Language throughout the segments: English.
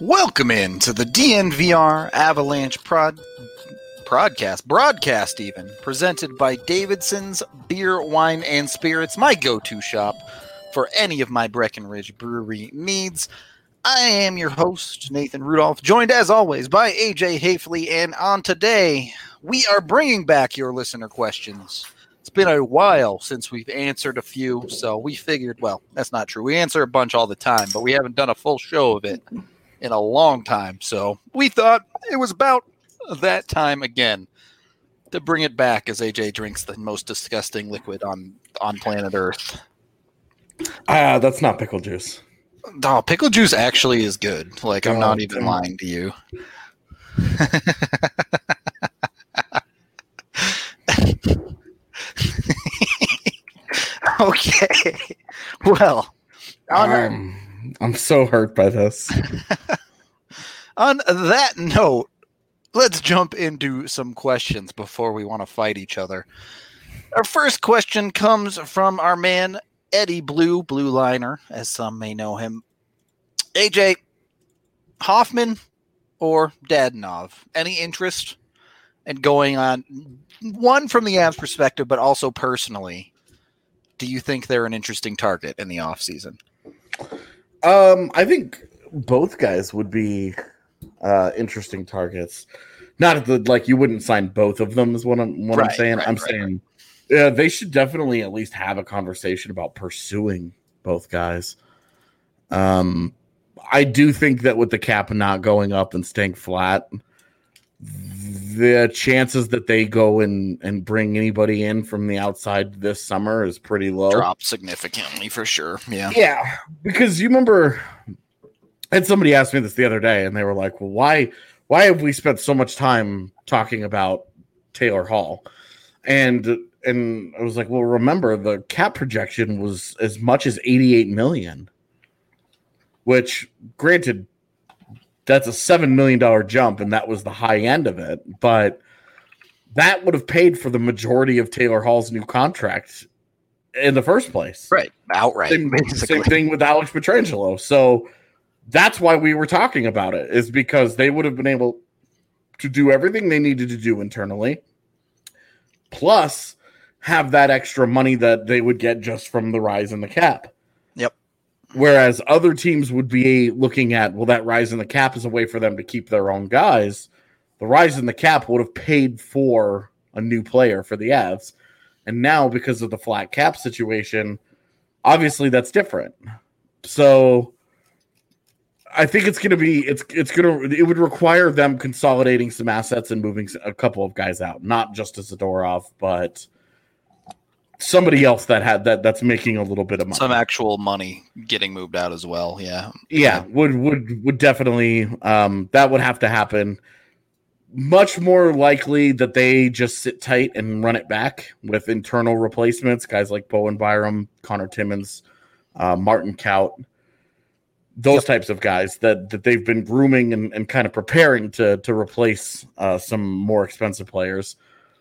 Welcome in to the DNVR Avalanche broadcast even, presented by Davidson's Beer, Wine, and Spirits, my go-to shop for any of my Breckenridge Brewery needs. I am your host, Nathan Rudolph, joined as always by AJ Hafley, and on today, we are bringing back your listener questions. It's been a while since we've answered a few, so we figured, well, that's not true. We answer a bunch all the time, but we haven't done a full show of it in a long time, so we thought it was about that time again to bring it back as AJ drinks the most disgusting liquid on planet Earth. That's not pickle juice. Oh, pickle juice actually is good. Like, I'm not even lying to you. Okay. Well, I'm so hurt by this. On that note, let's jump into some questions before we want to fight each other. Our first question comes from our man, Eddie Blue Liner, as some may know him. AJ, Hoffman or Dadonov? Any interest in going on, one from the Avs perspective, but also personally, do you think they're an interesting target in the offseason? I think both guys would be interesting targets. Not like you wouldn't sign both of them is what I'm saying. I'm saying they should definitely at least have a conversation about pursuing both guys. I do think that with the cap not going up and staying flat, the chances that they go and bring anybody in from the outside this summer is pretty low. Drop significantly for sure. Yeah, because you remember, and somebody asked me this the other day, and they were like, "Well, why have we spent so much time talking about Taylor Hall?" And I was like, "Well, remember the cap projection was as much as $88 million, which, granted, that's a $7 million jump, and that was the high end of it. But that would have paid for the majority of Taylor Hall's new contract in the first place. Right. Outright. Same thing with Alex Pietrangelo. So that's why we were talking about it, is because they would have been able to do everything they needed to do internally, plus have that extra money that they would get just from the rise in the cap. Yep. Whereas other teams would be looking at, well, that rise in the cap is a way for them to keep their own guys. The rise in the cap would have paid for a new player for the Avs. And now, because of the flat cap situation, obviously that's different. So I think it would require them consolidating some assets and moving a couple of guys out, not just a Zadorov, but somebody else that's making a little bit of money. Some actual money getting moved out as well. Yeah, would definitely that would have to happen. Much more likely that they just sit tight and run it back with internal replacements, guys like Bowen Byram, Connor Timmins, Martin Kaut, those types of guys that they've been grooming and kind of preparing to replace some more expensive players.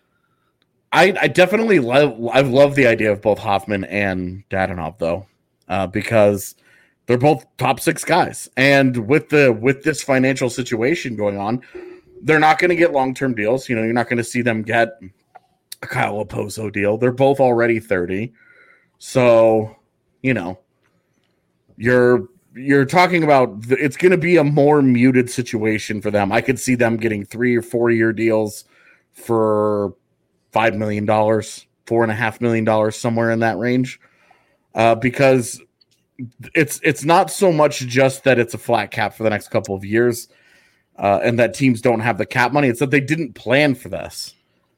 I definitely love the idea of both Hoffman and Dadonov, though, because they're both top six guys. And with this financial situation going on, they're not going to get long-term deals. You know, you're not going to see them get a Kyle Oposo deal. They're both already 30. So, you know, you're talking about it's going to be a more muted situation for them. I could see them getting 3 or 4 year deals for $5 million, $4.5 million, somewhere in that range, because it's not so much just that it's a flat cap for the next couple of years and that teams don't have the cap money. It's that they didn't plan for this.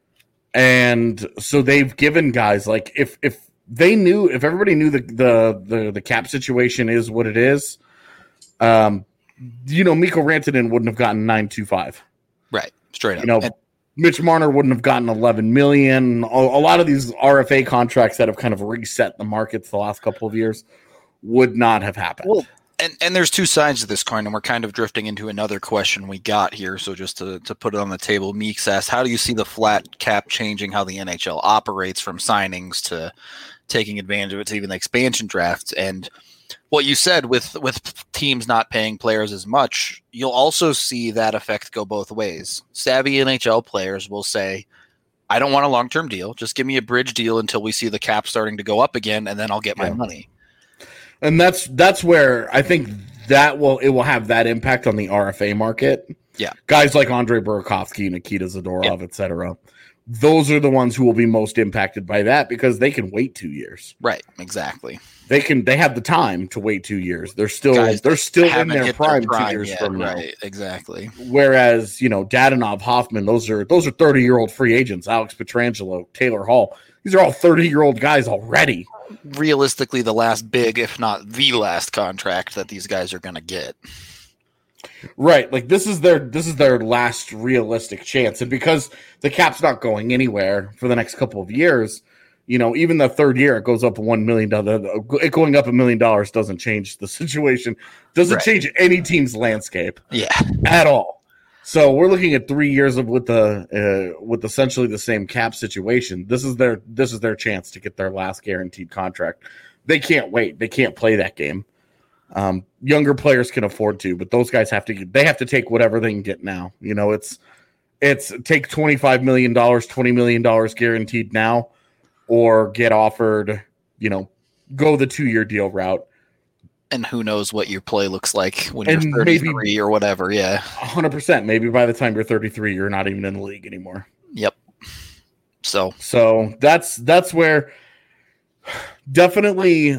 And so they've given guys, like, if everybody knew the cap situation is what it is, Mikko Rantanen wouldn't have gotten 9.25. Right. Straight up. Mitch Marner wouldn't have gotten $11 million. A lot of these RFA contracts that have kind of reset the markets the last couple of years would not have happened. Well, and there's two sides to this coin, and we're kind of drifting into another question we got here. So just to put it on the table, Meeks asked, how do you see the flat cap changing how the NHL operates, from signings to taking advantage of it to even the expansion drafts? And what you said with teams not paying players as much, you'll also see that effect go both ways. Savvy NHL players will say, I don't want a long-term deal. Just give me a bridge deal until we see the cap starting to go up again, and then I'll get my money. And that's where I think it will have that impact on the RFA market. Yeah. Guys like Andrei Burakovsky, Nikita Zadorov, etc. Those are the ones who will be most impacted by that because they can wait 2 years. Right, exactly. They have the time to wait 2 years. They're still in their prime 2 years yet, from now. Right, exactly. Whereas, Dadonov, Hoffman, those are 30-year-old free agents. Alex Pietrangelo, Taylor Hall. These are all 30-year-old guys already. Realistically, the last big, if not the last contract that these guys are going to get. Right, like this is their last realistic chance, and because the cap's not going anywhere for the next couple of years, even the third year it goes up $1 million. It going up $1 million doesn't change the situation, doesn't change any team's landscape, at all. So we're looking at 3 years with essentially the same cap situation. This is their chance to get their last guaranteed contract. They can't wait. They can't play that game. Younger players can afford to, but those guys have to take whatever they can get now. It's take $25 million, $20 million guaranteed now, or get offered, go the 2-year deal route. And who knows what your play looks like when you're 33 or whatever. Yeah. 100%. Maybe by the time you're 33, you're not even in the league anymore. Yep. So that's where definitely,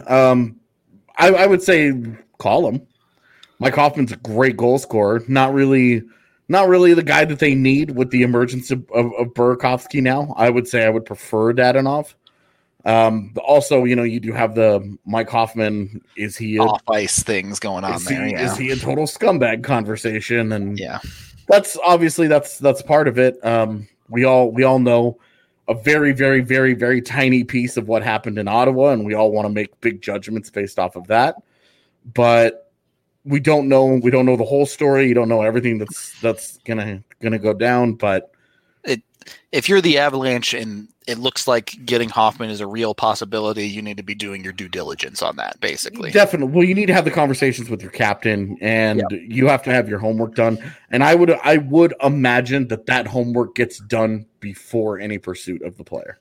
I would say call him. Mike Hoffman's a great goal scorer. Not really the guy that they need with the emergence of Burakovsky now. I would say I would prefer Dadonov. Also, you do have the Mike Hoffman. Is he off ice things going on there? Is he a total scumbag conversation? And yeah, that's obviously that's part of it. We all know a very, very, very, very tiny piece of what happened in Ottawa, and we all want to make big judgments based off of that. But we don't know the whole story. You don't know everything that's gonna go down. But if you're the Avalanche and it looks like getting Hoffman is a real possibility, you need to be doing your due diligence on that, basically. Definitely. Well, you need to have the conversations with your captain, and you have to have your homework done. And I would imagine that homework gets done before any pursuit of the player.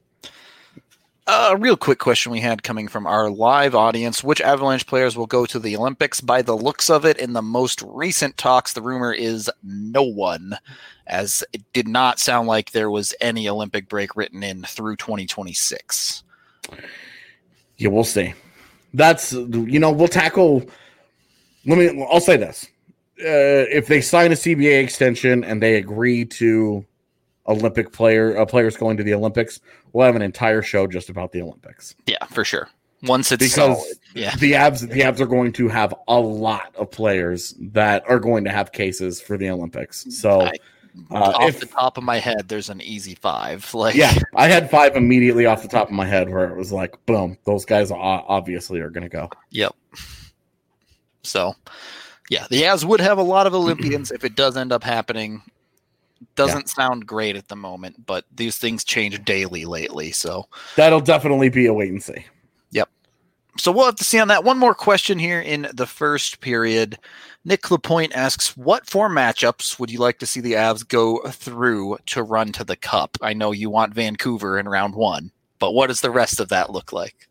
A real quick question we had coming from our live audience. Which Avalanche players will go to the Olympics? By the looks of it, in the most recent talks, the rumor is no one, as it did not sound like there was any Olympic break written in through 2026. Yeah, we'll see. That's, we'll tackle. I'll say this. If they sign a CBA extension and they agree to Olympic players going to the Olympics, we'll have an entire show just about the Olympics. Yeah, for sure. Once it's because solid. Yeah. the Avs are going to have a lot of players that are going to have cases for the Olympics. So off the top of my head, there's an easy 5. I had 5 immediately off the top of my head where it was like, boom, those guys obviously are going to go. Yep. So, yeah, the Avs would have a lot of Olympians if it does end up happening. Doesn't sound great at the moment, but these things change daily lately. So that'll definitely be a wait and see. Yep. So we'll have to see on that. One more question here in the first period. Nick Lapointe asks, what 4 matchups would you like to see the Avs go through to run to the Cup? I know you want Vancouver in round 1, but what does the rest of that look like?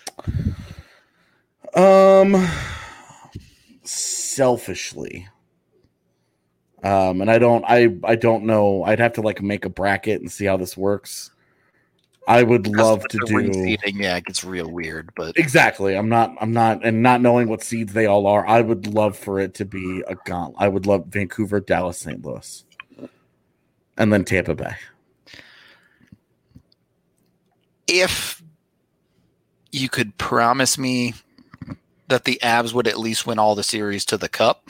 Selfishly. And I don't know. I'd have to make a bracket and see how this works. I would love to do. Yeah, it gets real weird, but exactly. I'm not, and not knowing what seeds they all are. I would love for it to be a gauntlet. I would love Vancouver, Dallas, St. Louis, and then Tampa Bay. If you could promise me that the Avs would at least win all the series to the Cup,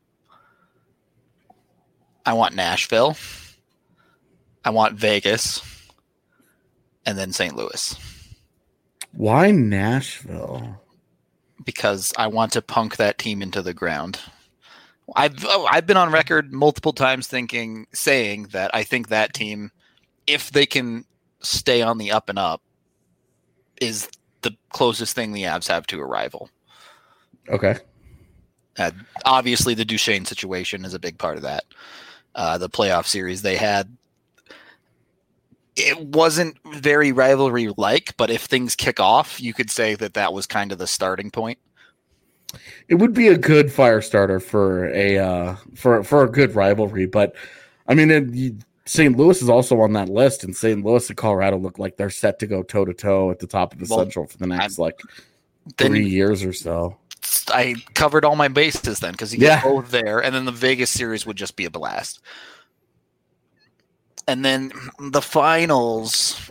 I want Nashville, I want Vegas, and then St. Louis. Why Nashville? Because I want to punk that team into the ground. I've been on record multiple times saying that I think that team, if they can stay on the up and up, is the closest thing the Avs have to a rival. Okay. Obviously, the Duchesne situation is a big part of that. The playoff series they had, it wasn't very rivalry-like, but if things kick off, you could say that was kind of the starting point. It would be a good fire starter for a good rivalry, but I mean, St. Louis is also on that list, and St. Louis and Colorado look like they're set to go toe to toe at the top of the Central for the next 3 years or so. I covered all my bases then because you get both there, and then the Vegas series would just be a blast. And then the finals.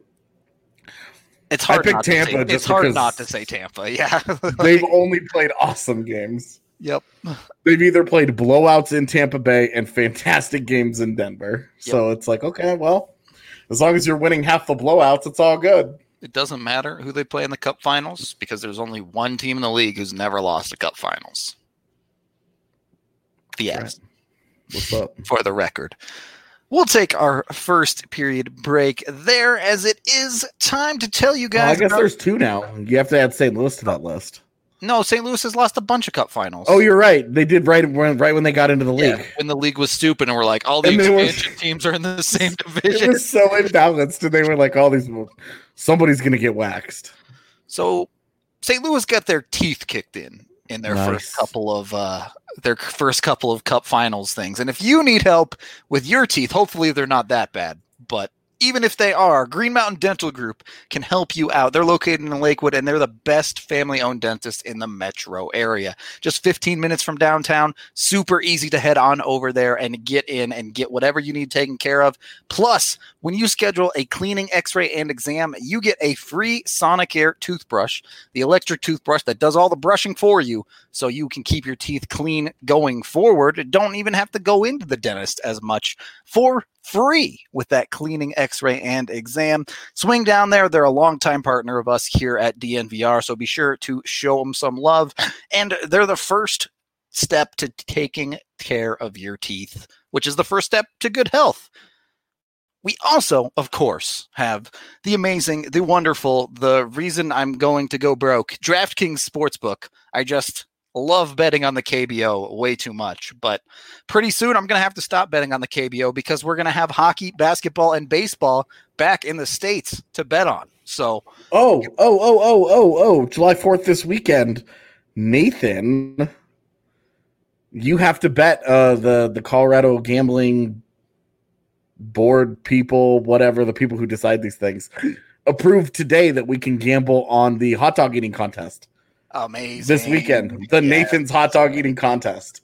It's hard. It's hard not to say Tampa. Yeah, they've only played awesome games. Yep. They've either played blowouts in Tampa Bay and fantastic games in Denver. Yep. So it's like, okay, well, as long as you're winning half the blowouts, it's all good. It doesn't matter who they play in the Cup Finals because there's only one team in the league who's never lost a Cup Finals. The Avs. What's up? For the record. We'll take our first period break there as it is time to tell you guys. I guess there's two now. You have to add St. Louis to that list. No, St. Louis has lost a bunch of Cup Finals. Oh, you're right. They did right when they got into the league. When the league was stupid and we're like, all the expansion teams are in the same division. It was so imbalanced, and they were like, somebody's going to get waxed. So St. Louis got their teeth kicked in their first couple of Cup Finals things. And if you need help with your teeth, hopefully they're not that bad. But even if they are, Green Mountain Dental Group can help you out. They're located in Lakewood, and they're the best family-owned dentist in the metro area. Just 15 minutes from downtown. Super easy to head on over there and get in and get whatever you need taken care of. Plus, when you schedule a cleaning, x-ray, and exam, you get a free Sonicare toothbrush, the electric toothbrush that does all the brushing for you so you can keep your teeth clean going forward. Don't even have to go into the dentist as much for free with that cleaning, x-ray, and exam. Swing down there. They're a longtime partner of us here at DNVR, so be sure to show them some love. And they're the first step to taking care of your teeth, which is the first step to good health. We also, of course, have the amazing, the wonderful, the reason I'm going to go broke, DraftKings Sportsbook. I just love betting on the KBO way too much, but pretty soon I'm going to have to stop betting on the KBO because we're going to have hockey, basketball, and baseball back in the States to bet on. So, July 4th this weekend, Nathan, you have to bet the Colorado gambling board people, whatever, the people who decide these things, approved today that we can gamble on the hot dog eating contest. Amazing. This weekend, Nathan's hot dog eating contest.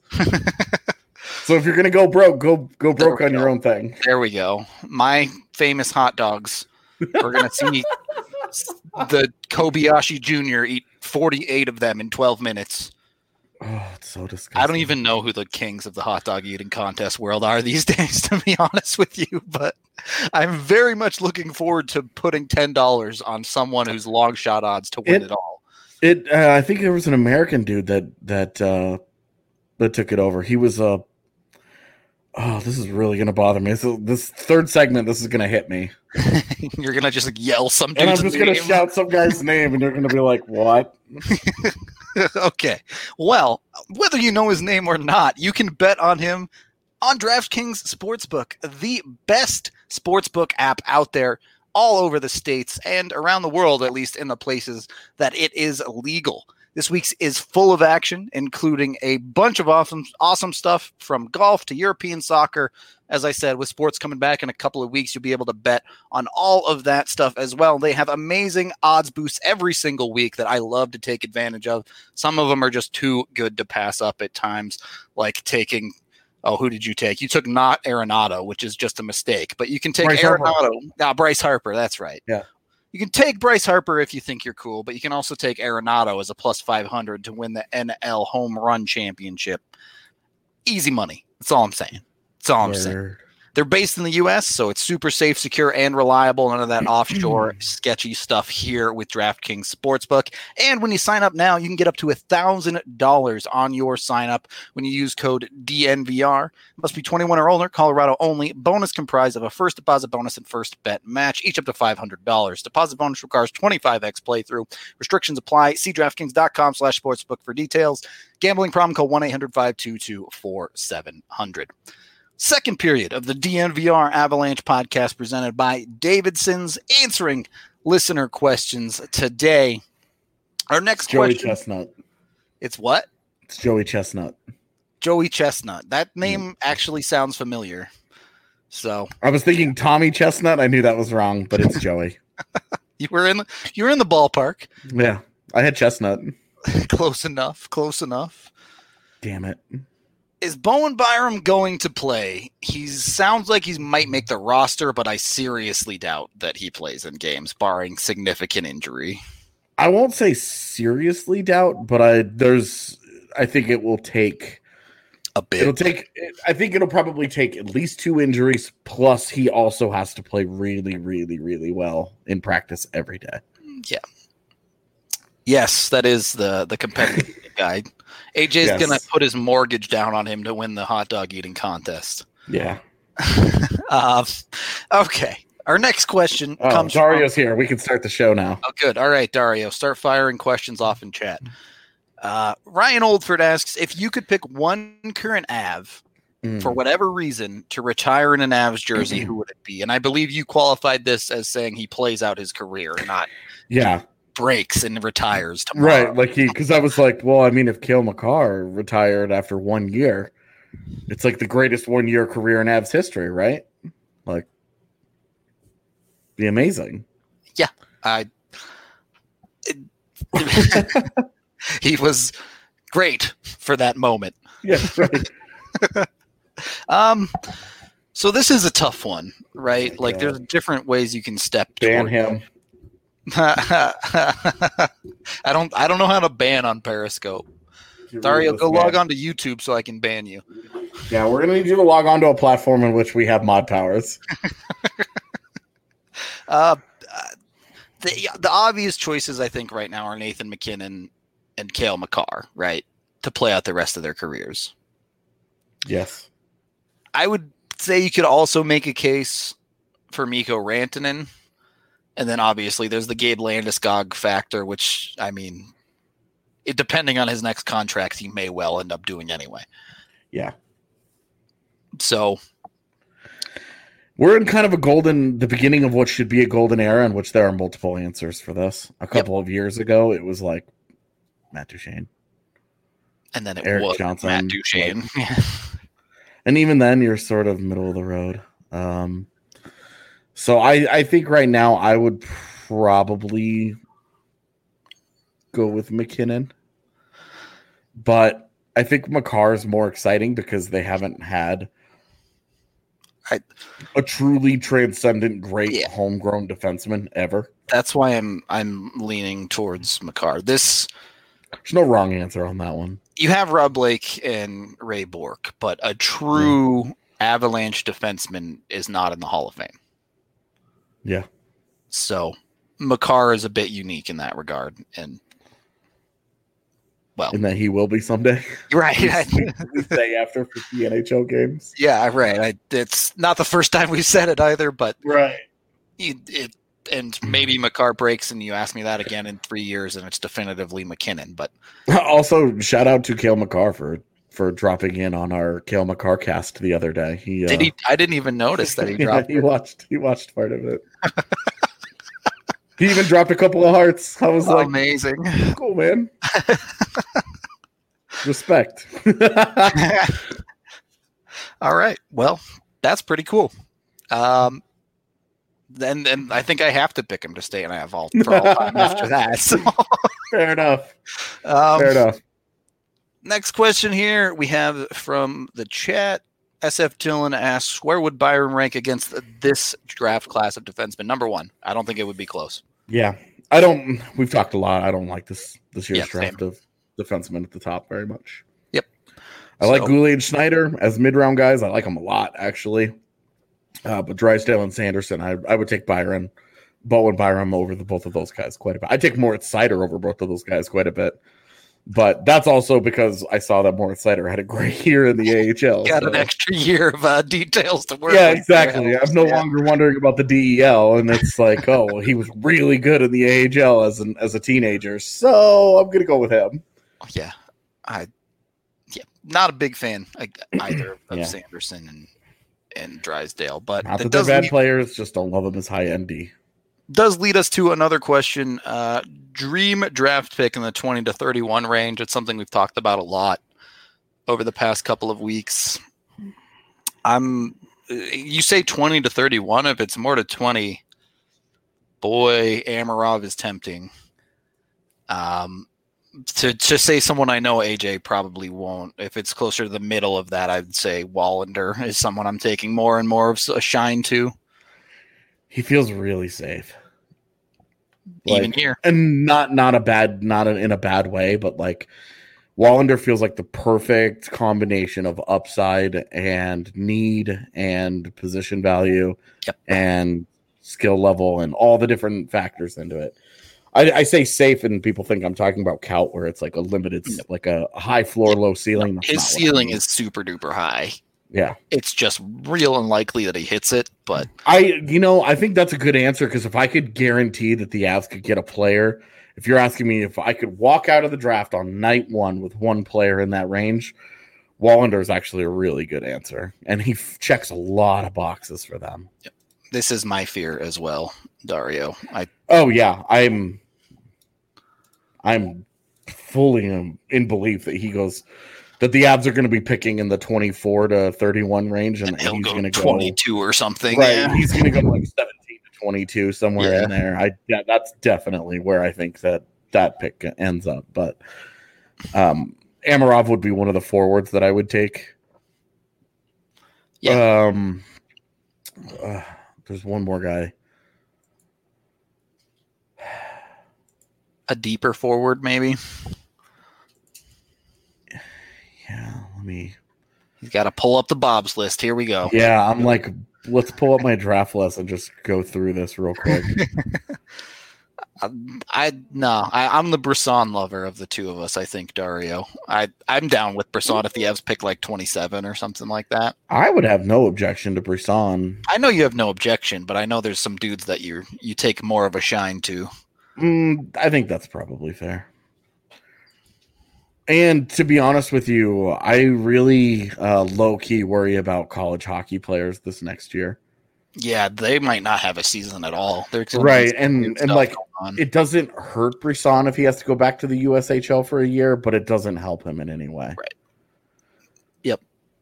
So if you're gonna go broke, go broke on your own thing. There we go. My famous hot dogs. We're gonna see the Kobayashi Jr. eat 48 of them in 12 minutes. Oh, it's so disgusting. I don't even know who the kings of the hot dog eating contest world are these days, to be honest with you, but I'm very much looking forward to putting $10 on someone who's long shot odds to win it all. I think there was an American dude that took it over. He was this is really gonna bother me. So this third segment, this is gonna hit me. You're gonna just yell some dude's and I'm just gonna shout some guy's name, and you're gonna be like, "What?" Okay. Well, whether you know his name or not, you can bet on him on DraftKings Sportsbook, the best sportsbook app out there, all over the States and around the world, at least in the places that it is legal. This week's is full of action, including a bunch of awesome stuff from golf to European soccer. As I said, with sports coming back in a couple of weeks, you'll be able to bet on all of that stuff as well. They have amazing odds boosts every single week that I love to take advantage of. Some of them are just too good to pass up at times, like taking – oh, who did you take? You took not Arenado, which is just a mistake. But you can take Arenado. Bryce Harper, that's right. Yeah. You can take Bryce Harper if you think you're cool, but you can also take Arenado as a plus 500 to win the NL Home Run Championship. Easy money. That's all I'm saying. That's all I'm saying. They're based in the U.S., so it's super safe, secure, and reliable. None of that offshore sketchy stuff here with DraftKings Sportsbook. And when you sign up now, you can get up to $1,000 on your sign up when you use code DNVR. Must be 21 or older, Colorado only. Bonus comprised of a first deposit bonus and first bet match, each up to $500. Deposit bonus requires 25x playthrough. Restrictions apply. See DraftKings.com/sportsbook for details. Gambling problem, call 1-800-522-4700. Second period of the DNVR Avalanche podcast presented by Davidson's, answering listener questions today. Our next Joey question. Chestnut. It's what? It's Joey Chestnut. Joey Chestnut. That name actually sounds familiar. So I was thinking Tommy Chestnut. I knew that was wrong, but it's Joey. you were in the ballpark. Yeah, I had Chestnut. Close enough. Damn it. Is Bowen Byram going to play? He sounds like he might make the roster, but I seriously doubt that he plays in games, barring significant injury. I won't say seriously doubt, but I think it will take a bit. I think it'll probably take at least 2 injuries, plus he also has to play really, really, really well in practice every day. Yeah. Yes, that is the competitive guide. AJ's going to put his mortgage down on him to win the hot dog eating contest. Yeah. Okay. Our next question comes Dario's here. We can start the show now. Oh, good. All right, Dario. Start firing questions off in chat. Ryan Oldford asks, if you could pick one current Av for whatever reason to retire in an Avs jersey, who would it be? And I believe you qualified this as saying he plays out his career, not breaks and retires tomorrow. Right, because I was like, well, I mean, if Cale Makar retired after 1 year, it's like the greatest 1 year career in Avs history, right? Like, be amazing. Yeah, he was great for that moment. Yeah, right. So this is a tough one, right? Like, there's different ways you can step. Ban him. I don't know how to ban on Periscope. Dario, go log on to YouTube so I can ban you. Yeah, we're gonna need you to log on to a platform in which we have mod powers. The obvious choices I think right now are Nathan MacKinnon and Cale Makar, right? To play out the rest of their careers. Yes. I would say you could also make a case for Mikko Rantanen. And then obviously there's the Gabe Landeskog factor, which, I mean, depending on his next contract, he may well end up doing anyway. Yeah. So we're in kind of the beginning of what should be a golden era in which there are multiple answers for this. A couple of years ago, it was like Matt Duchene. And then Eric was Johnson, Matt Duchene. And even then, you're sort of middle of the road. So I think right now I would probably go with MacKinnon. But I think Makar is more exciting because they haven't had a truly transcendent, great homegrown defenseman ever. That's why I'm leaning towards Makar. There's no wrong answer on that one. You have Rob Blake and Ray Bourque, but a true Avalanche defenseman is not in the Hall of Fame. Yeah. So Makar is a bit unique in that regard. And well, and that he will be someday. Right. we say after 50 NHL games. Yeah, right. It's not the first time we've said it either, but right. And maybe Makar breaks and you ask me that again in 3 years and it's definitively MacKinnon. But also shout out to Cale Makar for dropping in on our Cale Makar cast the other day. Did he? I didn't even notice that he dropped. He watched part of it. He even dropped a couple of hearts. I was like, amazing, cool, man. Respect. All right, well, that's pretty cool. Then I think I have to pick him to stay in AV for all time after that. So. Fair enough. Fair enough. Next question here we have from the chat. SF Dillon asks, where would Byron rank against this draft class of defensemen? Number one. I don't think it would be close. Yeah. We've talked a lot. I don't like this year's draft of defensemen at the top very much. Yep. I like Goulet and Schneider as mid-round guys. I like them a lot, actually. But Drysdale and Sanderson, I would take Bowen Byram over both of those guys quite a bit. I'd take Moritz Seider over both of those guys quite a bit. But that's also because I saw that Moritz Seider had a great year in the AHL. Got an extra year of details to work Yeah, with. exactly. I'm no longer wondering about the DEL, and it's like, oh, well, he was really good in the AHL as a teenager, so I'm gonna go with him. Yeah, not a big fan either of Sanderson and Drysdale, but not that they're bad players, just don't love them as high ND. Does lead us to another question. Dream draft pick in the 20 to 31 range. It's something we've talked about a lot over the past couple of weeks. You say 20 to 31. If it's more to 20, boy, Amarov is tempting. To say someone I know, AJ probably won't. If it's closer to the middle of that, I'd say Wallander is someone I'm taking more and more of a shine to. He feels really safe. Even here. And not in a bad way, but like Wallander feels like the perfect combination of upside and need and position value and skill level and all the different factors into it. I say safe, and people think I'm talking about Kaut, where it's like a limited, like a high floor, low ceiling. His ceiling is super duper high. Yeah, it's just real unlikely that he hits it. But I think that's a good answer, because if I could guarantee that the Avs could get a player, if you're asking me if I could walk out of the draft on night one with one player in that range, Wallander is actually a really good answer, and he checks a lot of boxes for them. Yep. This is my fear as well, Dario. I'm fully in belief that that the Avs are going to be picking in the 24 to 31 range, and he's going to go 22 or something. Right, yeah. He's going to go like 17 to 22, somewhere in there. That's definitely where I think that pick ends up. But Amarov would be one of the forwards that I would take. Yeah. There's one more guy. A deeper forward, maybe. Yeah, He's got to pull up the Bob's list. Here we go. Yeah, I'm like, let's pull up my draft list and just go through this real quick. I'm the Brisson lover of the two of us, I think, Dario. I'm down with Brisson if the Avs pick like 27 or something like that. I would have no objection to Brisson. I know you have no objection, but I know there's some dudes that you take more of a shine to. I think that's probably fair. And to be honest with you, I really low-key worry about college hockey players this next year. Yeah, they might not have a season at all. Right, and like it doesn't hurt Brisson if he has to go back to the USHL for a year, but it doesn't help him in any way. Right. Yep.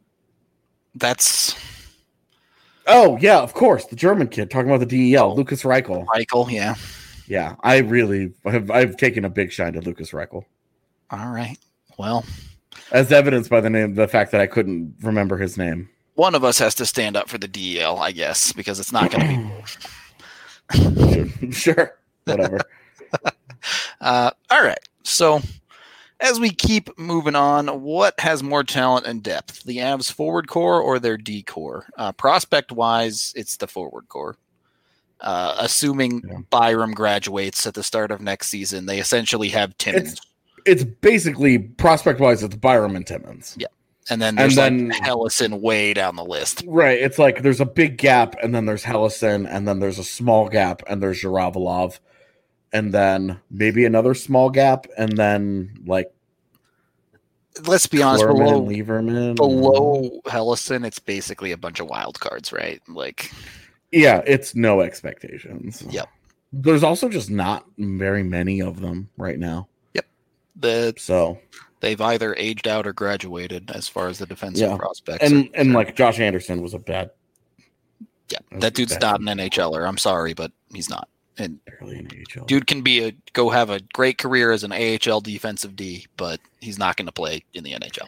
Oh, yeah, of course. The German kid talking about the DEL, Lukas Reichel. Reichel, yeah. Yeah, I've taken a big shine to Lukas Reichel. All right. Well, as evidenced by the fact that I couldn't remember his name. One of us has to stand up for the DEL, I guess, because it's not going to be sure. Whatever. All right. So as we keep moving on, what has more talent and depth, the Avs forward core or their D core? Prospect wise, it's the forward core. Assuming Byram graduates at the start of next season, they essentially have Timmins. It's basically prospect wise, it's Byram and Timmins. Yeah. And then there's Hellison way down the list. Right. It's like there's a big gap, and then there's Hellison, and then there's a small gap, and there's Zhiravalov, and then maybe another small gap, and then like let's be honest, below Lieberman. Hellison, it's basically a bunch of wild cards, right? Like yeah, it's no expectations. Yep. There's also just not very many of them right now. Yep. They've either aged out or graduated as far as the defensive prospects. And like Josh Anderson was a bad. Yeah, that dude's not an NHLer. I'm sorry, but he's not. And barely an AHL. Dude can go have a great career as an AHL defensive D, but he's not going to play in the NHL.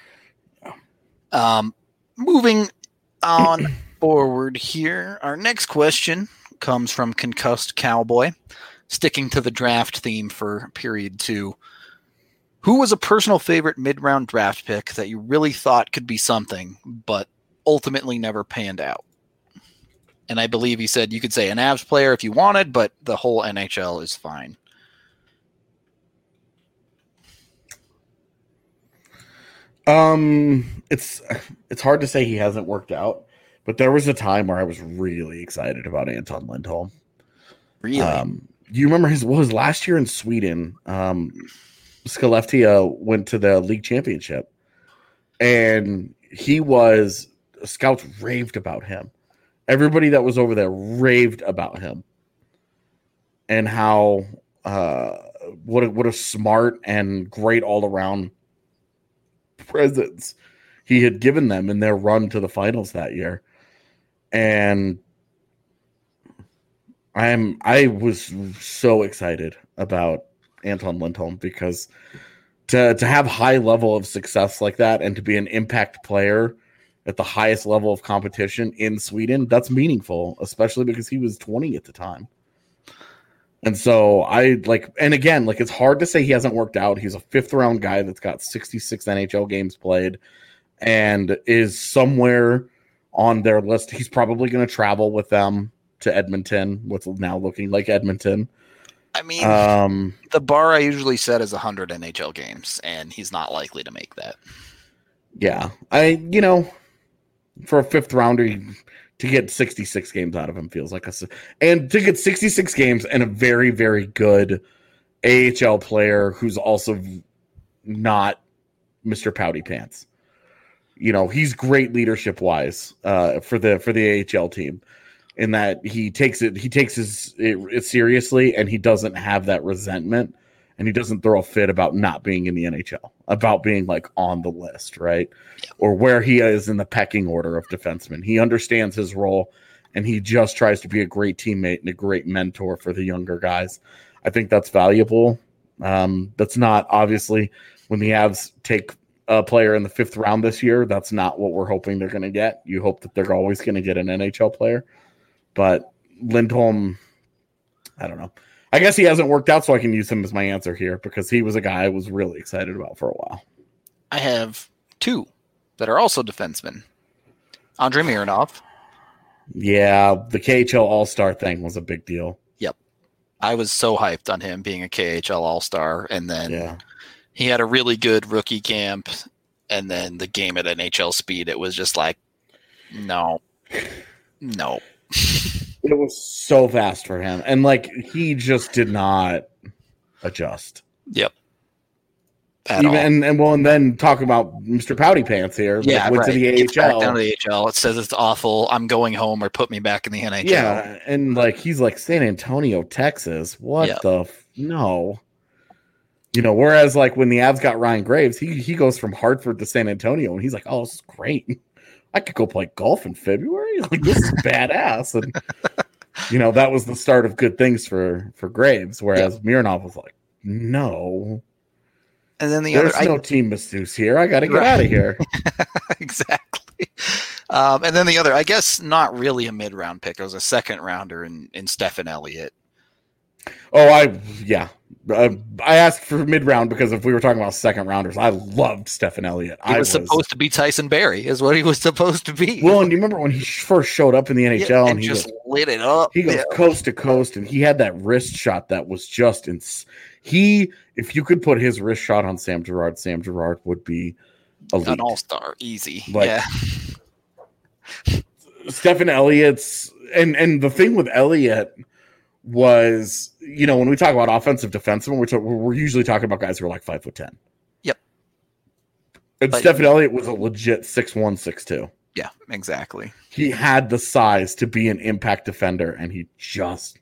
No. Moving on forward here, our next question comes from Concussed Cowboy, sticking to the draft theme for period 2. Who was a personal favorite mid-round draft pick that you really thought could be something, but ultimately never panned out? And I believe he said you could say an Avs player if you wanted, but the whole NHL is fine. It's hard to say he hasn't worked out, but there was a time where I was really excited about Anton Lindholm. Really? Do you remember his last year in Sweden? Skellefteå went to the league championship, and scouts raved about him. Everybody that was over there raved about him, and how what a smart and great all around presence he had given them in their run to the finals that year. And I was so excited about Anton Lindholm because to have high level of success like that and to be an impact player at the highest level of competition in Sweden, that's meaningful, especially because he was 20 at the time. And so it's hard to say he hasn't worked out. He's a 5th round guy that's got 66 NHL games played and is somewhere on their list. He's probably going to travel with them to Edmonton, what's now looking like Edmonton. I mean, the bar I usually set is 100 NHL games, and he's not likely to make that. Yeah. For a 5th rounder, to get 66 games out of him feels like and to get 66 games and a very, very good AHL player who's also not Mr. Pouty Pants. He's great leadership wise for the AHL team in that he takes it seriously, and he doesn't have that resentment, and he doesn't throw a fit about not being in the NHL, about being like on the list, right? Or where he is in the pecking order of defensemen. He understands his role, and he just tries to be a great teammate and a great mentor for the younger guys. I think that's valuable. That's not, obviously, when the Avs take a player in the 5th round this year, that's not what we're hoping they're going to get. You hope that they're always going to get an NHL player. But Lindholm, I don't know. I guess he hasn't worked out, so I can use him as my answer here because he was a guy I was really excited about for a while. I have 2 that are also defensemen. Andrei Mironov. Yeah, the KHL All-Star thing was a big deal. Yep. I was so hyped on him being a KHL All-Star, and then he had a really good rookie camp, and then the game at NHL speed, it was just like, no. It was so fast for him. And he just did not adjust. Yep. And then talk about Mr. Pouty Pants here. Yeah, went to the AHL. Back down to the AHL. It says it's awful. I'm going home, or put me back in the NHL. Yeah, and he's like San Antonio, Texas. What no. Whereas when the Avs got Ryan Graves, he goes from Hartford to San Antonio, and he's like, oh, this is great. I could go play golf in February. This is badass. And, that was the start of good things for Graves. Whereas Mironov was like, no. And then there's no team masseuse here. I got to get out of here. Exactly. And then the other, I guess, not really a mid-round pick. It was a 2nd rounder in Stephen Elliott. Oh, I asked for mid-round because if we were talking about 2nd rounders, I loved Stephen Elliott. He was supposed to be Tyson Barrie, is what he was supposed to be. Well, and you remember when he first showed up in the NHL and he just lit it up. He goes coast to coast, and he had that wrist shot that was just if you could put his wrist shot on Sam Girard would be elite. An all-star, easy. Stephen Elliott's and the thing with Elliott was, when we talk about offensive defensemen, we're usually talking about guys who are like 5'10". Yep. And Stephen Elliott was a legit 6'1", 6'2". Yeah, exactly. He had the size to be an impact defender, and he just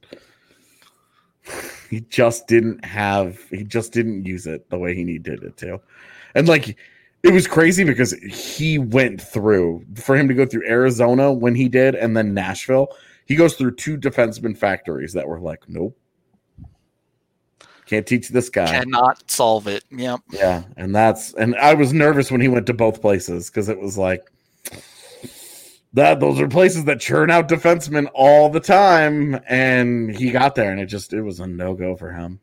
didn't use it the way he needed it to. And it was crazy because he went through, for him to go through Arizona when he did, and then Nashville, he goes through 2 defenseman factories that were like, nope. Can't teach this guy. Cannot solve it. Yep. Yeah. And I was nervous when he went to both places because it was like, those are places that churn out defensemen all the time. And he got there, and it was a no-go for him.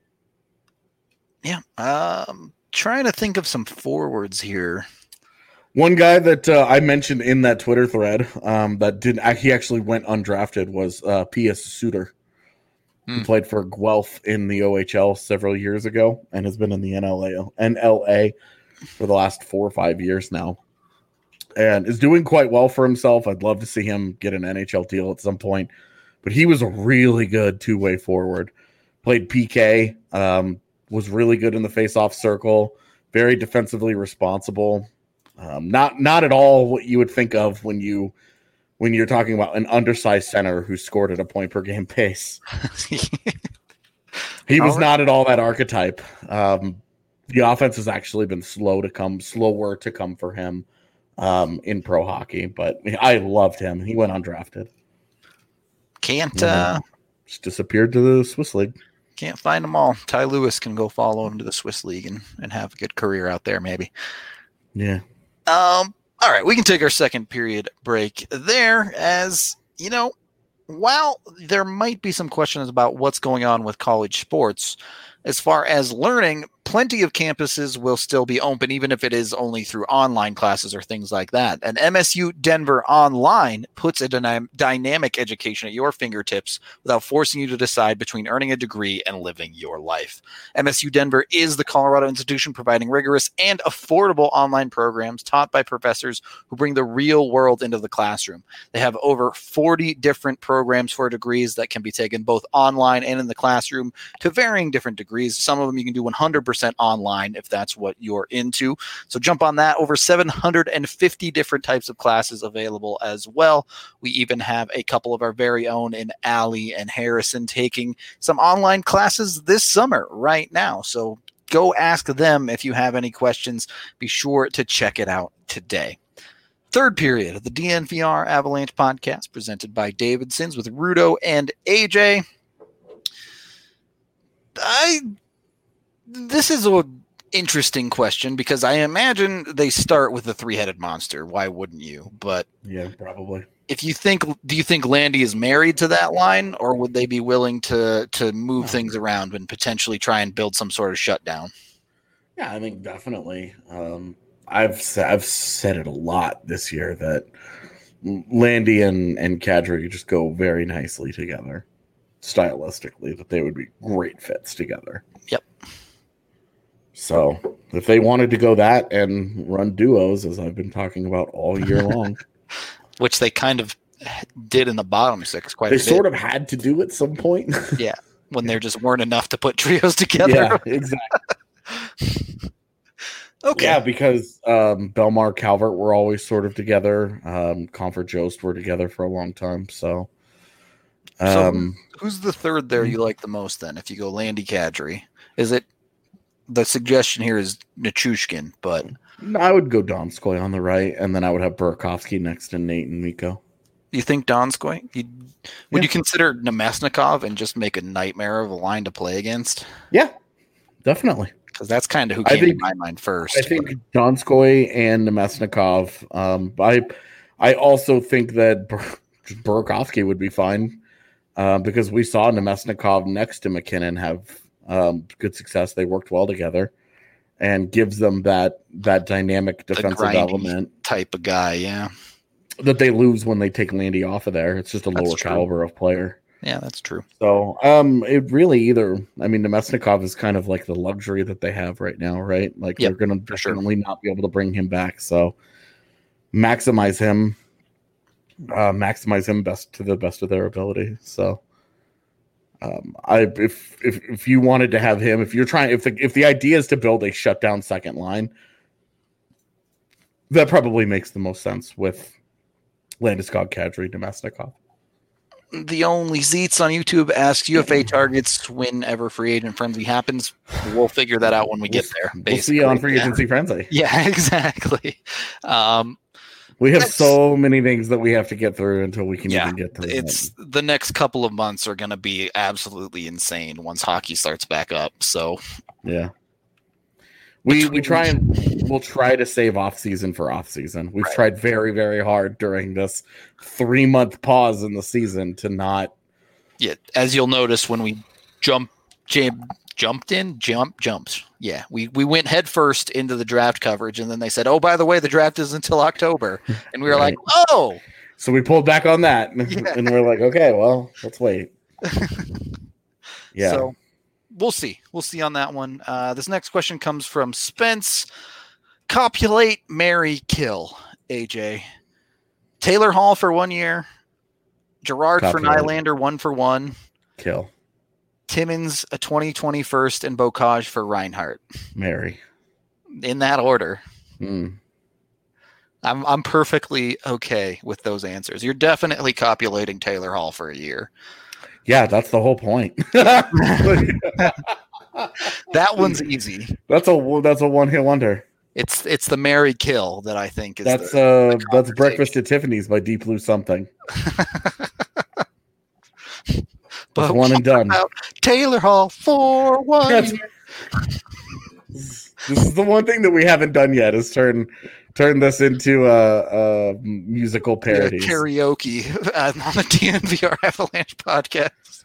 Yeah. Trying to think of some forwards here One guy that I mentioned in that Twitter thread he actually went undrafted was P.S. Suter. He played for Guelph in the OHL several years ago and has been in the NLA for the last 4 or 5 years now and is doing quite well for himself. I'd love to see him get an NHL deal at some point, but he was a really good two-way forward. Played PK, was really good in the face-off circle, very defensively responsible. Not at all what you would think of when you're talking about an undersized center who scored at a point per game pace. He was not at all that archetype. The offense has actually been slower to come for him in pro hockey, but I loved him. He went undrafted. Just disappeared to the Swiss League. Can't find them all. Ty Lewis can go follow him to the Swiss League and have a good career out there, maybe. Yeah. All right, we can take our second period break there. As you know, while there might be some questions about what's going on with college sports, as far as learning, plenty of campuses will still be open, even if it is only through online classes or things like that. And MSU Denver Online puts a dynamic education at your fingertips without forcing you to decide between earning a degree and living your life. MSU Denver is the Colorado institution providing rigorous and affordable online programs taught by professors who bring the real world into the classroom. They have over 40 different programs for degrees that can be taken both online and in the classroom to varying different degrees. Some of them you can do 100% online if that's what you're into. So jump on that. Over 750 different types of classes available as well. We even have a couple of our very own in Allie and Harrison taking some online classes this summer right now. So go ask them if you have any questions. Be sure to check it out today. Third period of the DNVR Avalanche podcast presented by Davidson's with Rudo and AJ. This is an interesting question because I imagine they start with the three-headed monster. Why wouldn't you? But yeah, probably. Do you think Landy is married to that line, or would they be willing to move things around and potentially try and build some sort of shutdown? Yeah, I think definitely. I've said it a lot this year that Landy and Kadri just go very nicely together. Stylistically, that they would be great fits together. Yep. So if they wanted to go that and run duos, as I've been talking about all year long, which they kind of did in the bottom six, they sort of had to do at some point. Yeah, when there just weren't enough to put trios together. Yeah, exactly. Okay. Yeah, because Belmar, Calvert were always sort of together. Comfort Jost were together for a long time. So who's the third there you like the most then? If you go Landy, Kadri, is it the suggestion here is Nichushkin, but I would go Donskoy on the right, and then I would have Burakovsky next to Nate and Mikko. You think Donskoy? Would you consider Nemesnikov and just make a nightmare of a line to play against? Yeah, definitely. Because that's kind of who came to my mind first. I think Donskoy and Nemesnikov. I also think that Burakovsky would be fine. Because we saw Nemesnikov next to McKinnon have good success. They worked well together and gives them that dynamic defensive element type of guy, yeah. That they lose when they take Landy off of there. It's just a lower caliber of player. Yeah, that's true. So it really Nemesnikov is kind of like the luxury that they have right now, right? Like they're going to definitely not be able to bring him back. So maximize him best to the best of their ability. So if you wanted to have him, if the idea is to build a shutdown second line, that probably makes the most sense with Landeskog, Kadri, Nemesnikov. The only Zeets on YouTube asks UFA targets whenever free agent frenzy happens. We'll figure that out when we get there. We'll see you on free agency frenzy. Yeah, exactly. We have so many things that we have to get through until we can even get through. The next couple of months are going to be absolutely insane once hockey starts back up. So yeah, we'll try to save off season for off season. We've tried very, very hard during this 3-month pause in the season to not. Yeah, as you'll notice when we Jumped. Yeah, we went head first into the draft coverage, and then they said, "Oh, by the way, the draft is until October," and we were like, "Oh." So we pulled back on that, and we're like, "Okay, well, let's wait." Yeah. So we'll see. We'll see on that one. This next question comes from Spence. Copulate, marry, kill. AJ. Taylor Hall for 1 year. Gerard for Nylander 1-for-1. Kill. Timmins a 2020 first and Bocage for Reinhart. Marry. In that order. Mm. I'm perfectly okay with those answers. You're definitely copulating Taylor Hall for a year. Yeah, that's the whole point. That one's easy. That's a one-hit wonder. It's the marry kill that I think is that's Breakfast at Tiffany's by Deep Blue something. But one and done. Taylor Hall for 1 year. This is the one thing that we haven't done yet is turn this into a musical parody. Karaoke on the DNVR Avalanche podcast.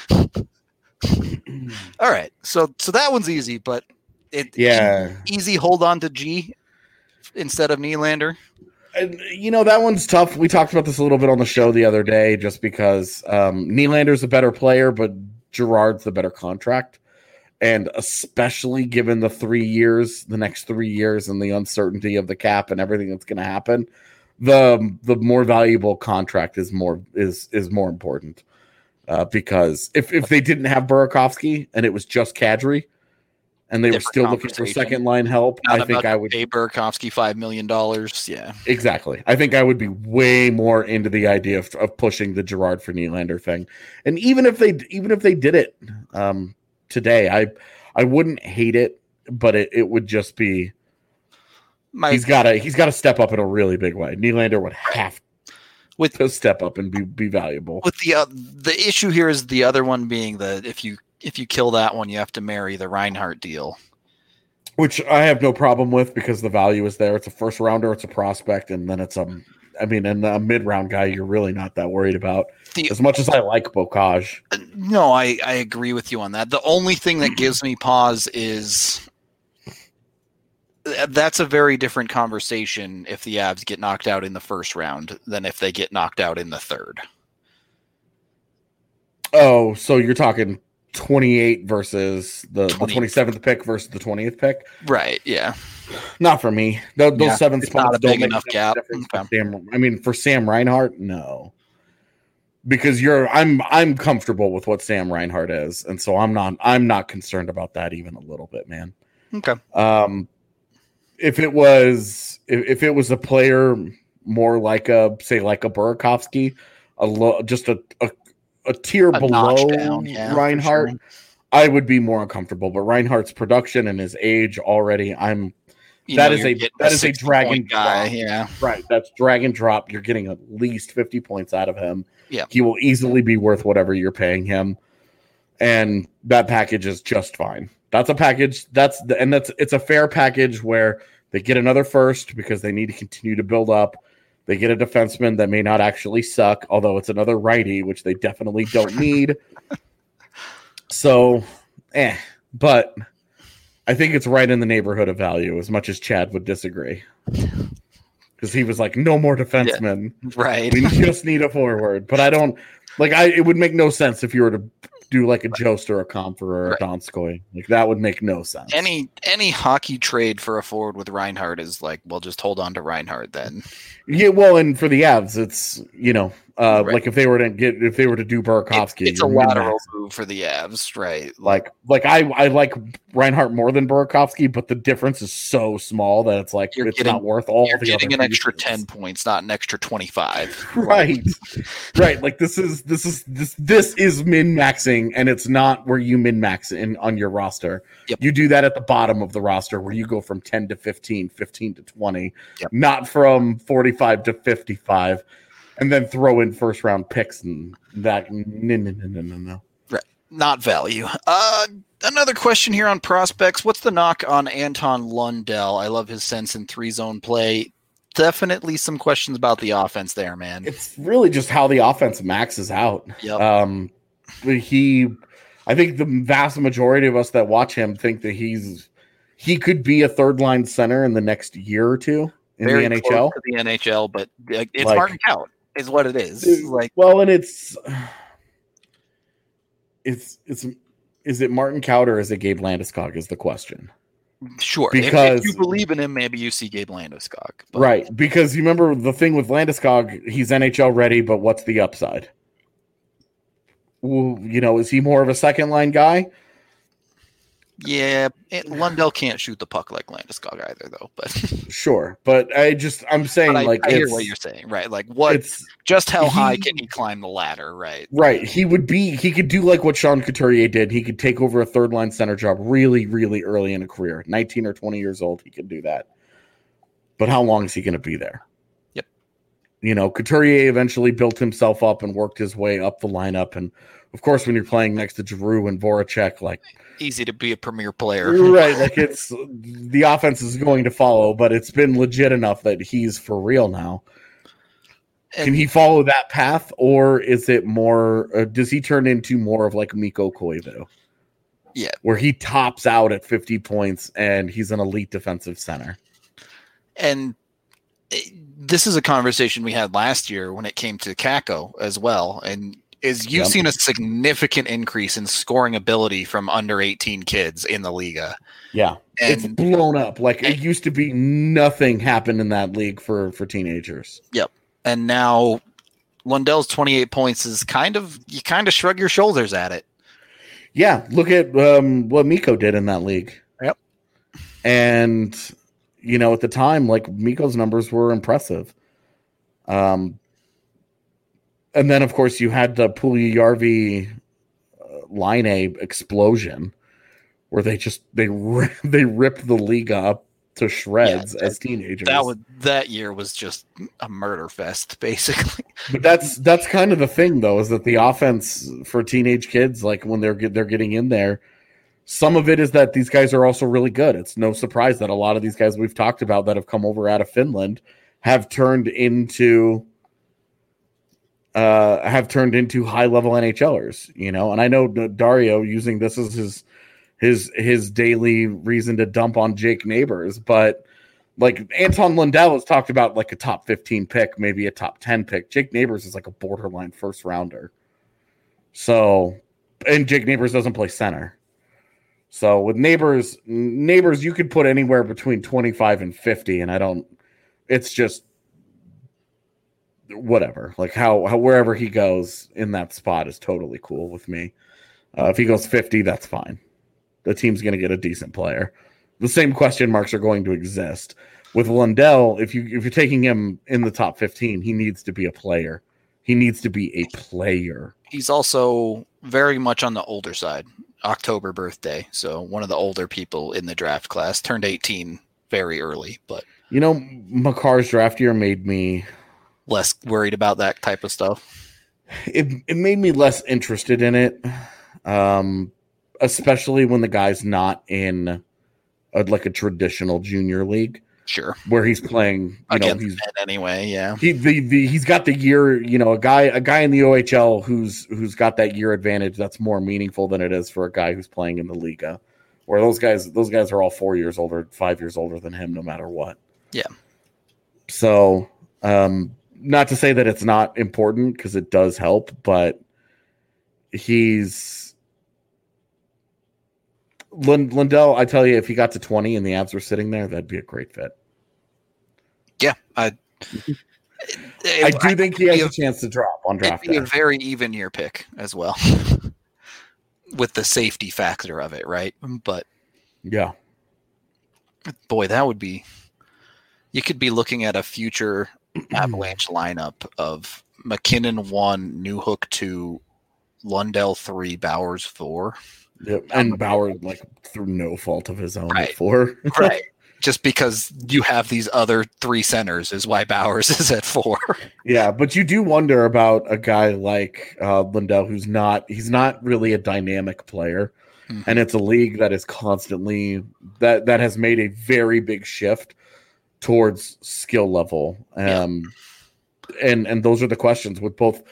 All right. So that one's easy, but easy hold on to G instead of Nylander. And, that one's tough. We talked about this a little bit on the show the other day, just because Nylander's a better player, but Gerard's the better contract. And especially given the next 3 years and the uncertainty of the cap and everything that's going to happen, the more valuable contract is more important. Because if they didn't have Burakovsky and it was just Kadri, and they were still looking for second line help, I think I would pay Burakovsky $5 million. Yeah, exactly. I think I would be way more into the idea of pushing the Gerard for Nylander thing. And even if they did it today, I wouldn't hate it, but it would just be he's got to step up in a really big way. Nylander would have to step up and be valuable. With the issue here is the other one being that if you kill that one, you have to marry the Reinhart deal, which I have no problem with because the value is there. It's a first rounder, it's a prospect, and then it's and a mid round guy you're really not that worried about. As much as I like Bocage. No, I agree with you on that. The only thing that gives me pause is that's a very different conversation if the Avs get knocked out in the first round than if they get knocked out in the third. Oh, so you're talking 28 versus the 27th pick versus the 20th pick? Right, yeah. Not for me. Those 7 spots not a big enough gap. For Sam Reinhart, no. Because I'm comfortable with what Sam Reinhart is, and so I'm not concerned about that even a little bit, man. Okay. If it was a player more like a Burakovsky, just a tier below down, Reinhart, sure, I would be more uncomfortable. But Reinhart's production and his age already, that is a drag and guy. Drop. Yeah, right. That's drag and drop. You're getting at least 50 points out of him. Yeah, he will easily be worth whatever you're paying him, and that package is just fine. That's a package. It's a fair package where they get another first because they need to continue to build up. They get a defenseman that may not actually suck, although it's another righty, which they definitely don't need. So, but I think it's right in the neighborhood of value, as much as Chad would disagree. Because he was like, no more defensemen. Yeah, right. We just need a forward. But I don't it would make no sense if you were to do like a Jost or a Comfer or a Donskoy. Like that would make no sense. Any hockey trade for a forward with Reinhart is like, well, just hold on to Reinhart then. Yeah, well, and for the Avs, it's like if they were to do Burakovsky, it's a lateral move for the Avs, right? Like I like Reinhart more than Burakovsky, but the difference is so small that it's like not worth all. You're getting an extra 10 points, not an extra 25. Right, right. Like this is min maxing, and it's not where you min max on your roster. Yep. You do that at the bottom of the roster where you go from 10 to 15, 15 to 20, yep, not from 45 to 55. And then throw in first round picks and that. No. Right. Not value. Another question here on prospects. What's the knock on Anton Lundell? I love his sense in 3-zone play. Definitely some questions about the offense there, man. It's really just how the offense maxes out. Yep. I think the vast majority of us that watch him think that he could be a third line center in the next year or two in Very the close NHL. to the NHL, but it's Like- Martin Kaut is what it is. Like, Well, and it's is it Martin Kaut or is it Gabe Landeskog is the question. sure, Because- if you believe in him, maybe you see Gabe Landeskog. But Right, because you remember the thing with Landeskog, he's NHL ready, but what's the upside? Well, is he more of a second line guy? yeah, Lundell can't shoot the puck like Landeskog either, though. But, Sure, but I'm saying but like I hear it's, what you're saying, right? Like, what? it's Just how high he- can he climb the ladder, right? right. He could do like what Sean Couturier did. He could take over a third line center job really, really early in a career. 19 or 20 years old, he could do that. But how long is he going to be there? Yep. Couturier eventually built himself up and worked his way up the lineup. And of course, when you're playing next to Giroux and Voracek, like, Easy to be a premier player. right, like it's the offense is going to follow, but it's been legit enough that he's for real now. And Can he follow that path, or is it more? Does he turn into more of like Mikko Koivu? Yeah. Where he tops out at 50 points and he's an elite defensive center. And this is a conversation we had last year when it came to Kako as well. And you've Yep. seen a significant increase in scoring ability from under 18 kids in the Liga. Yeah, it's And blown up. Like it used to be, nothing happened in that league for teenagers. and now Lundell's 28 points is you kind of shrug your shoulders at it. Yeah, look at what Mikko did in that league. Yep. And at the time, like Mikko's numbers were impressive. And then, of course, you had the Puljujärvi Line A explosion, where they ripped the league up to shreds as teenagers. That year was just a murder fest, basically. But that's kind of the thing, though, is that the offense for teenage kids, like when they're getting in there, some of it is that these guys are also really good. It's no surprise that a lot of these guys we've talked about that have come over out of Finland have turned into high-level NHLers, and I know Dario using this as his daily reason to dump on Jake Neighbors, but like Anton Lundell has talked about like a top 15 pick, maybe a top 10 pick. Jake Neighbors is like a borderline first rounder. So, and Jake Neighbors doesn't play center. So with Neighbors, you could put anywhere between 25 and 50, and it's just whatever. Like how wherever he goes in that spot is totally cool with me. If he goes 50, that's fine. The team's going to get a decent player. The same question marks are going to exist with Lundell. If you're taking him in the top 15, he needs to be a player. He needs to be a player. He's also very much on the older side. October birthday, so one of the older people in the draft class, turned 18 very early, but Makar's draft year made me less worried about that type of stuff. It made me less interested in it, especially when the guy's not in a traditional junior league. Sure, where he's playing, against he's men anyway. Yeah, he's got the year. A guy in the OHL who's got that year advantage. That's more meaningful than it is for a guy who's playing in the Liga, where those guys are all 4 years older, 5 years older than him, no matter what. Yeah. So, not to say that it's not important because it does help, but Lundell, I tell you, if he got to 20 and the Avs were sitting there, that'd be a great fit. Yeah, I do think he has a chance to drop on draft day. It'd be day. a very even year pick as well, with the safety factor of it, right? But yeah, boy, that would be. You could be looking at a future Avalanche lineup of McKinnon 1, Newhook 2, Lundell 3, Bowers 4. Yep. And Bauer, through no fault of his own, Right. at 4. Right. Just because you have these other 3 centers is why Bowers is at 4. Yeah, but you do wonder about a guy like Lundell, he's not really a dynamic player. Mm-hmm. And it's a league that is constantly that has made a very big shift towards skill level. And those are the questions with both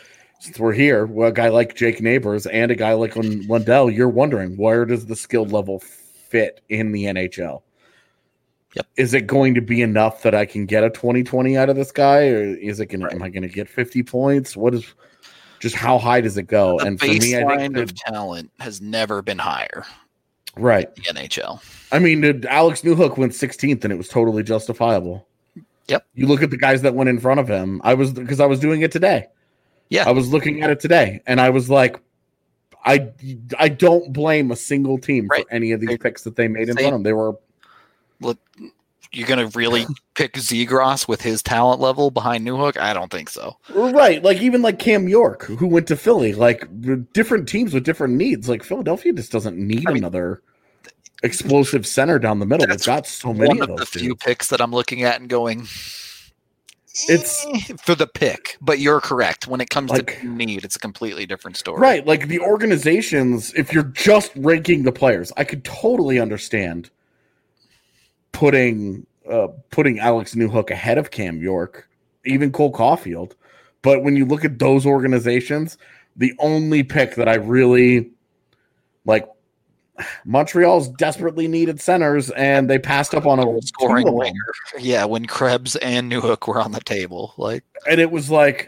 since we're here, well, a guy like Jake Neighbors and a guy like Lundell, you're wondering, where does the skill level fit in the NHL? Yep. Is it going to be enough that I can get a 20-20 out of this guy, or is it going? Right. Am I going to get 50 points? What is? Just how high does it go? The and for me, I think of talent has never been higher. Right. In the NHL. I mean, Alex Newhook went 16th, and it was totally justifiable. Yep. You look at the guys that went in front of him. Because I was doing it today. Yeah. I was looking at it today, and I was like, I don't blame a single team for any of these picks that they made in front of them. They were. Look, you're going to really pick Zegras with his talent level behind Newhook? I don't think so. Right. Like, even like Cam York, who went to Philly, like different teams with different needs. Like, Philadelphia just doesn't need another explosive center down the middle. They've got so many of those. The few picks that I'm looking at and going, it's for the pick, but you're correct. When it comes to need, it's a completely different story. Right. Like the organizations, if you're just ranking the players, I could totally understand putting Alex Newhook ahead of Cam York, even Cole Caulfield. But when you look at those organizations, the only pick that I really like, Montreal's desperately needed centers, and they passed up on a scoring winger. Yeah, when Krebs and Newhook were on the table, and it was like,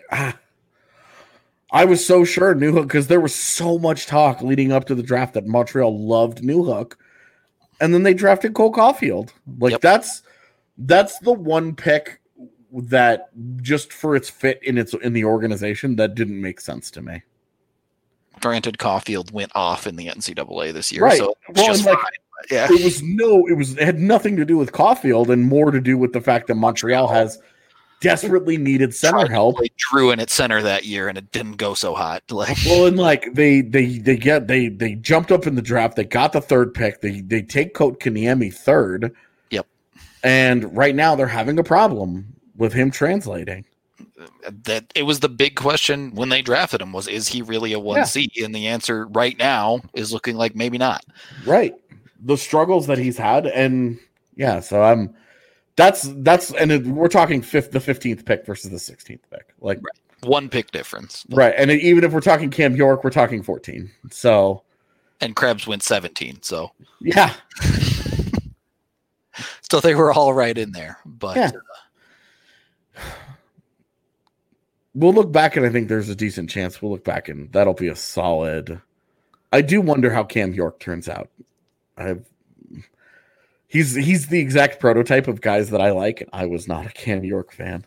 I was so sure Newhook, because there was so much talk leading up to the draft that Montreal loved Newhook. And then they drafted Cole Caulfield. That's the one pick that just for its fit in the organization that didn't make sense to me. Granted, Caulfield went off in the NCAA this year, right? So just fine. Yeah, it had nothing to do with Caulfield and more to do with the fact that Montreal has desperately needed center help. Drew in at center that year, and it didn't go so hot. They jumped up in the draft. They got the third pick. They take Kotkaniemi third. Yep. And right now they're having a problem with him translating. That it was the big question when they drafted him was, is he really a 1C? Yeah. And the answer right now is looking like maybe not. Right. The struggles that he's had, and yeah, so that's and we're talking the 15th pick versus the 16th pick. Like one pick difference. Right. And even if we're talking Cam York, we're talking 14. So and Krebs went 17, so yeah. So they were all right in there, but yeah. We'll look back, and I think there's a decent chance we'll look back, and that'll be a solid. I do wonder how Cam York turns out. He's the exact prototype of guys that I like, and I was not a Cam York fan.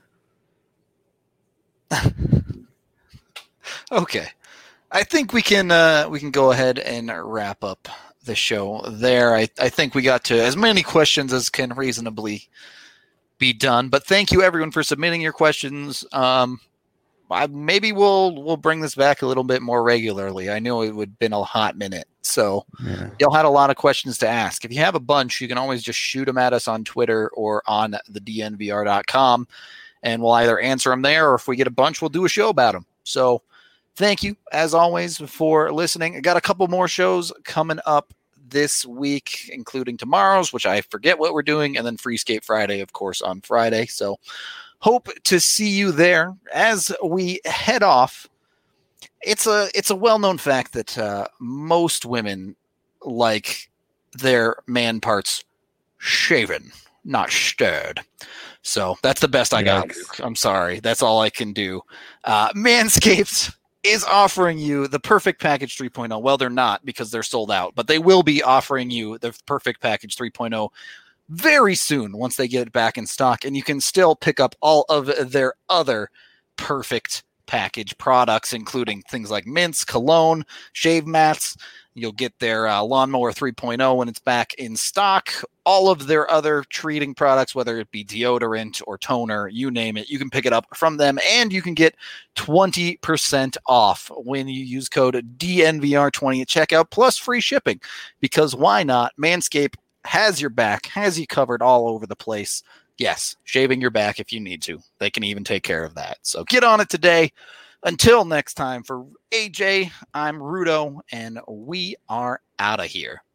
Okay, I think we can go ahead and wrap up the show there. I think we got to as many questions as can reasonably be done. But thank you everyone for submitting your questions. Maybe we'll bring this back a little bit more regularly. I know it would have been a hot minute. So y'all had a lot of questions to ask. If you have a bunch, you can always just shoot them at us on Twitter or on the DNVR.com, and we'll either answer them there, or if we get a bunch, we'll do a show about them. So thank you, as always, for listening. I got a couple more shows coming up this week, including tomorrow's, which I forget what we're doing, and then Free Skate Friday, of course, on Friday. So hope to see you there. As we head off, it's a well-known fact that most women like their man parts shaven, not stirred. So that's the best I got, Luke. I'm sorry. That's all I can do. Manscaped is offering you the Perfect Package 3.0. Well, they're not, because they're sold out, but they will be offering you the Perfect Package 3.0 very soon once they get it back in stock, and you can still pick up all of their other Perfect Package products, including things like mints, cologne, shave mats. You'll get their Lawnmower 3.0 when it's back in stock. All of their other treating products, whether it be deodorant or toner, you name it, you can pick it up from them, and you can get 20% off when you use code DNVR20 at checkout, plus free shipping, because why not? Manscaped has your back, has you covered all over the place. Yes, shaving your back if you need to. They can even take care of that. So get on it today. Until next time, for AJ, I'm Rudo, and we are out of here.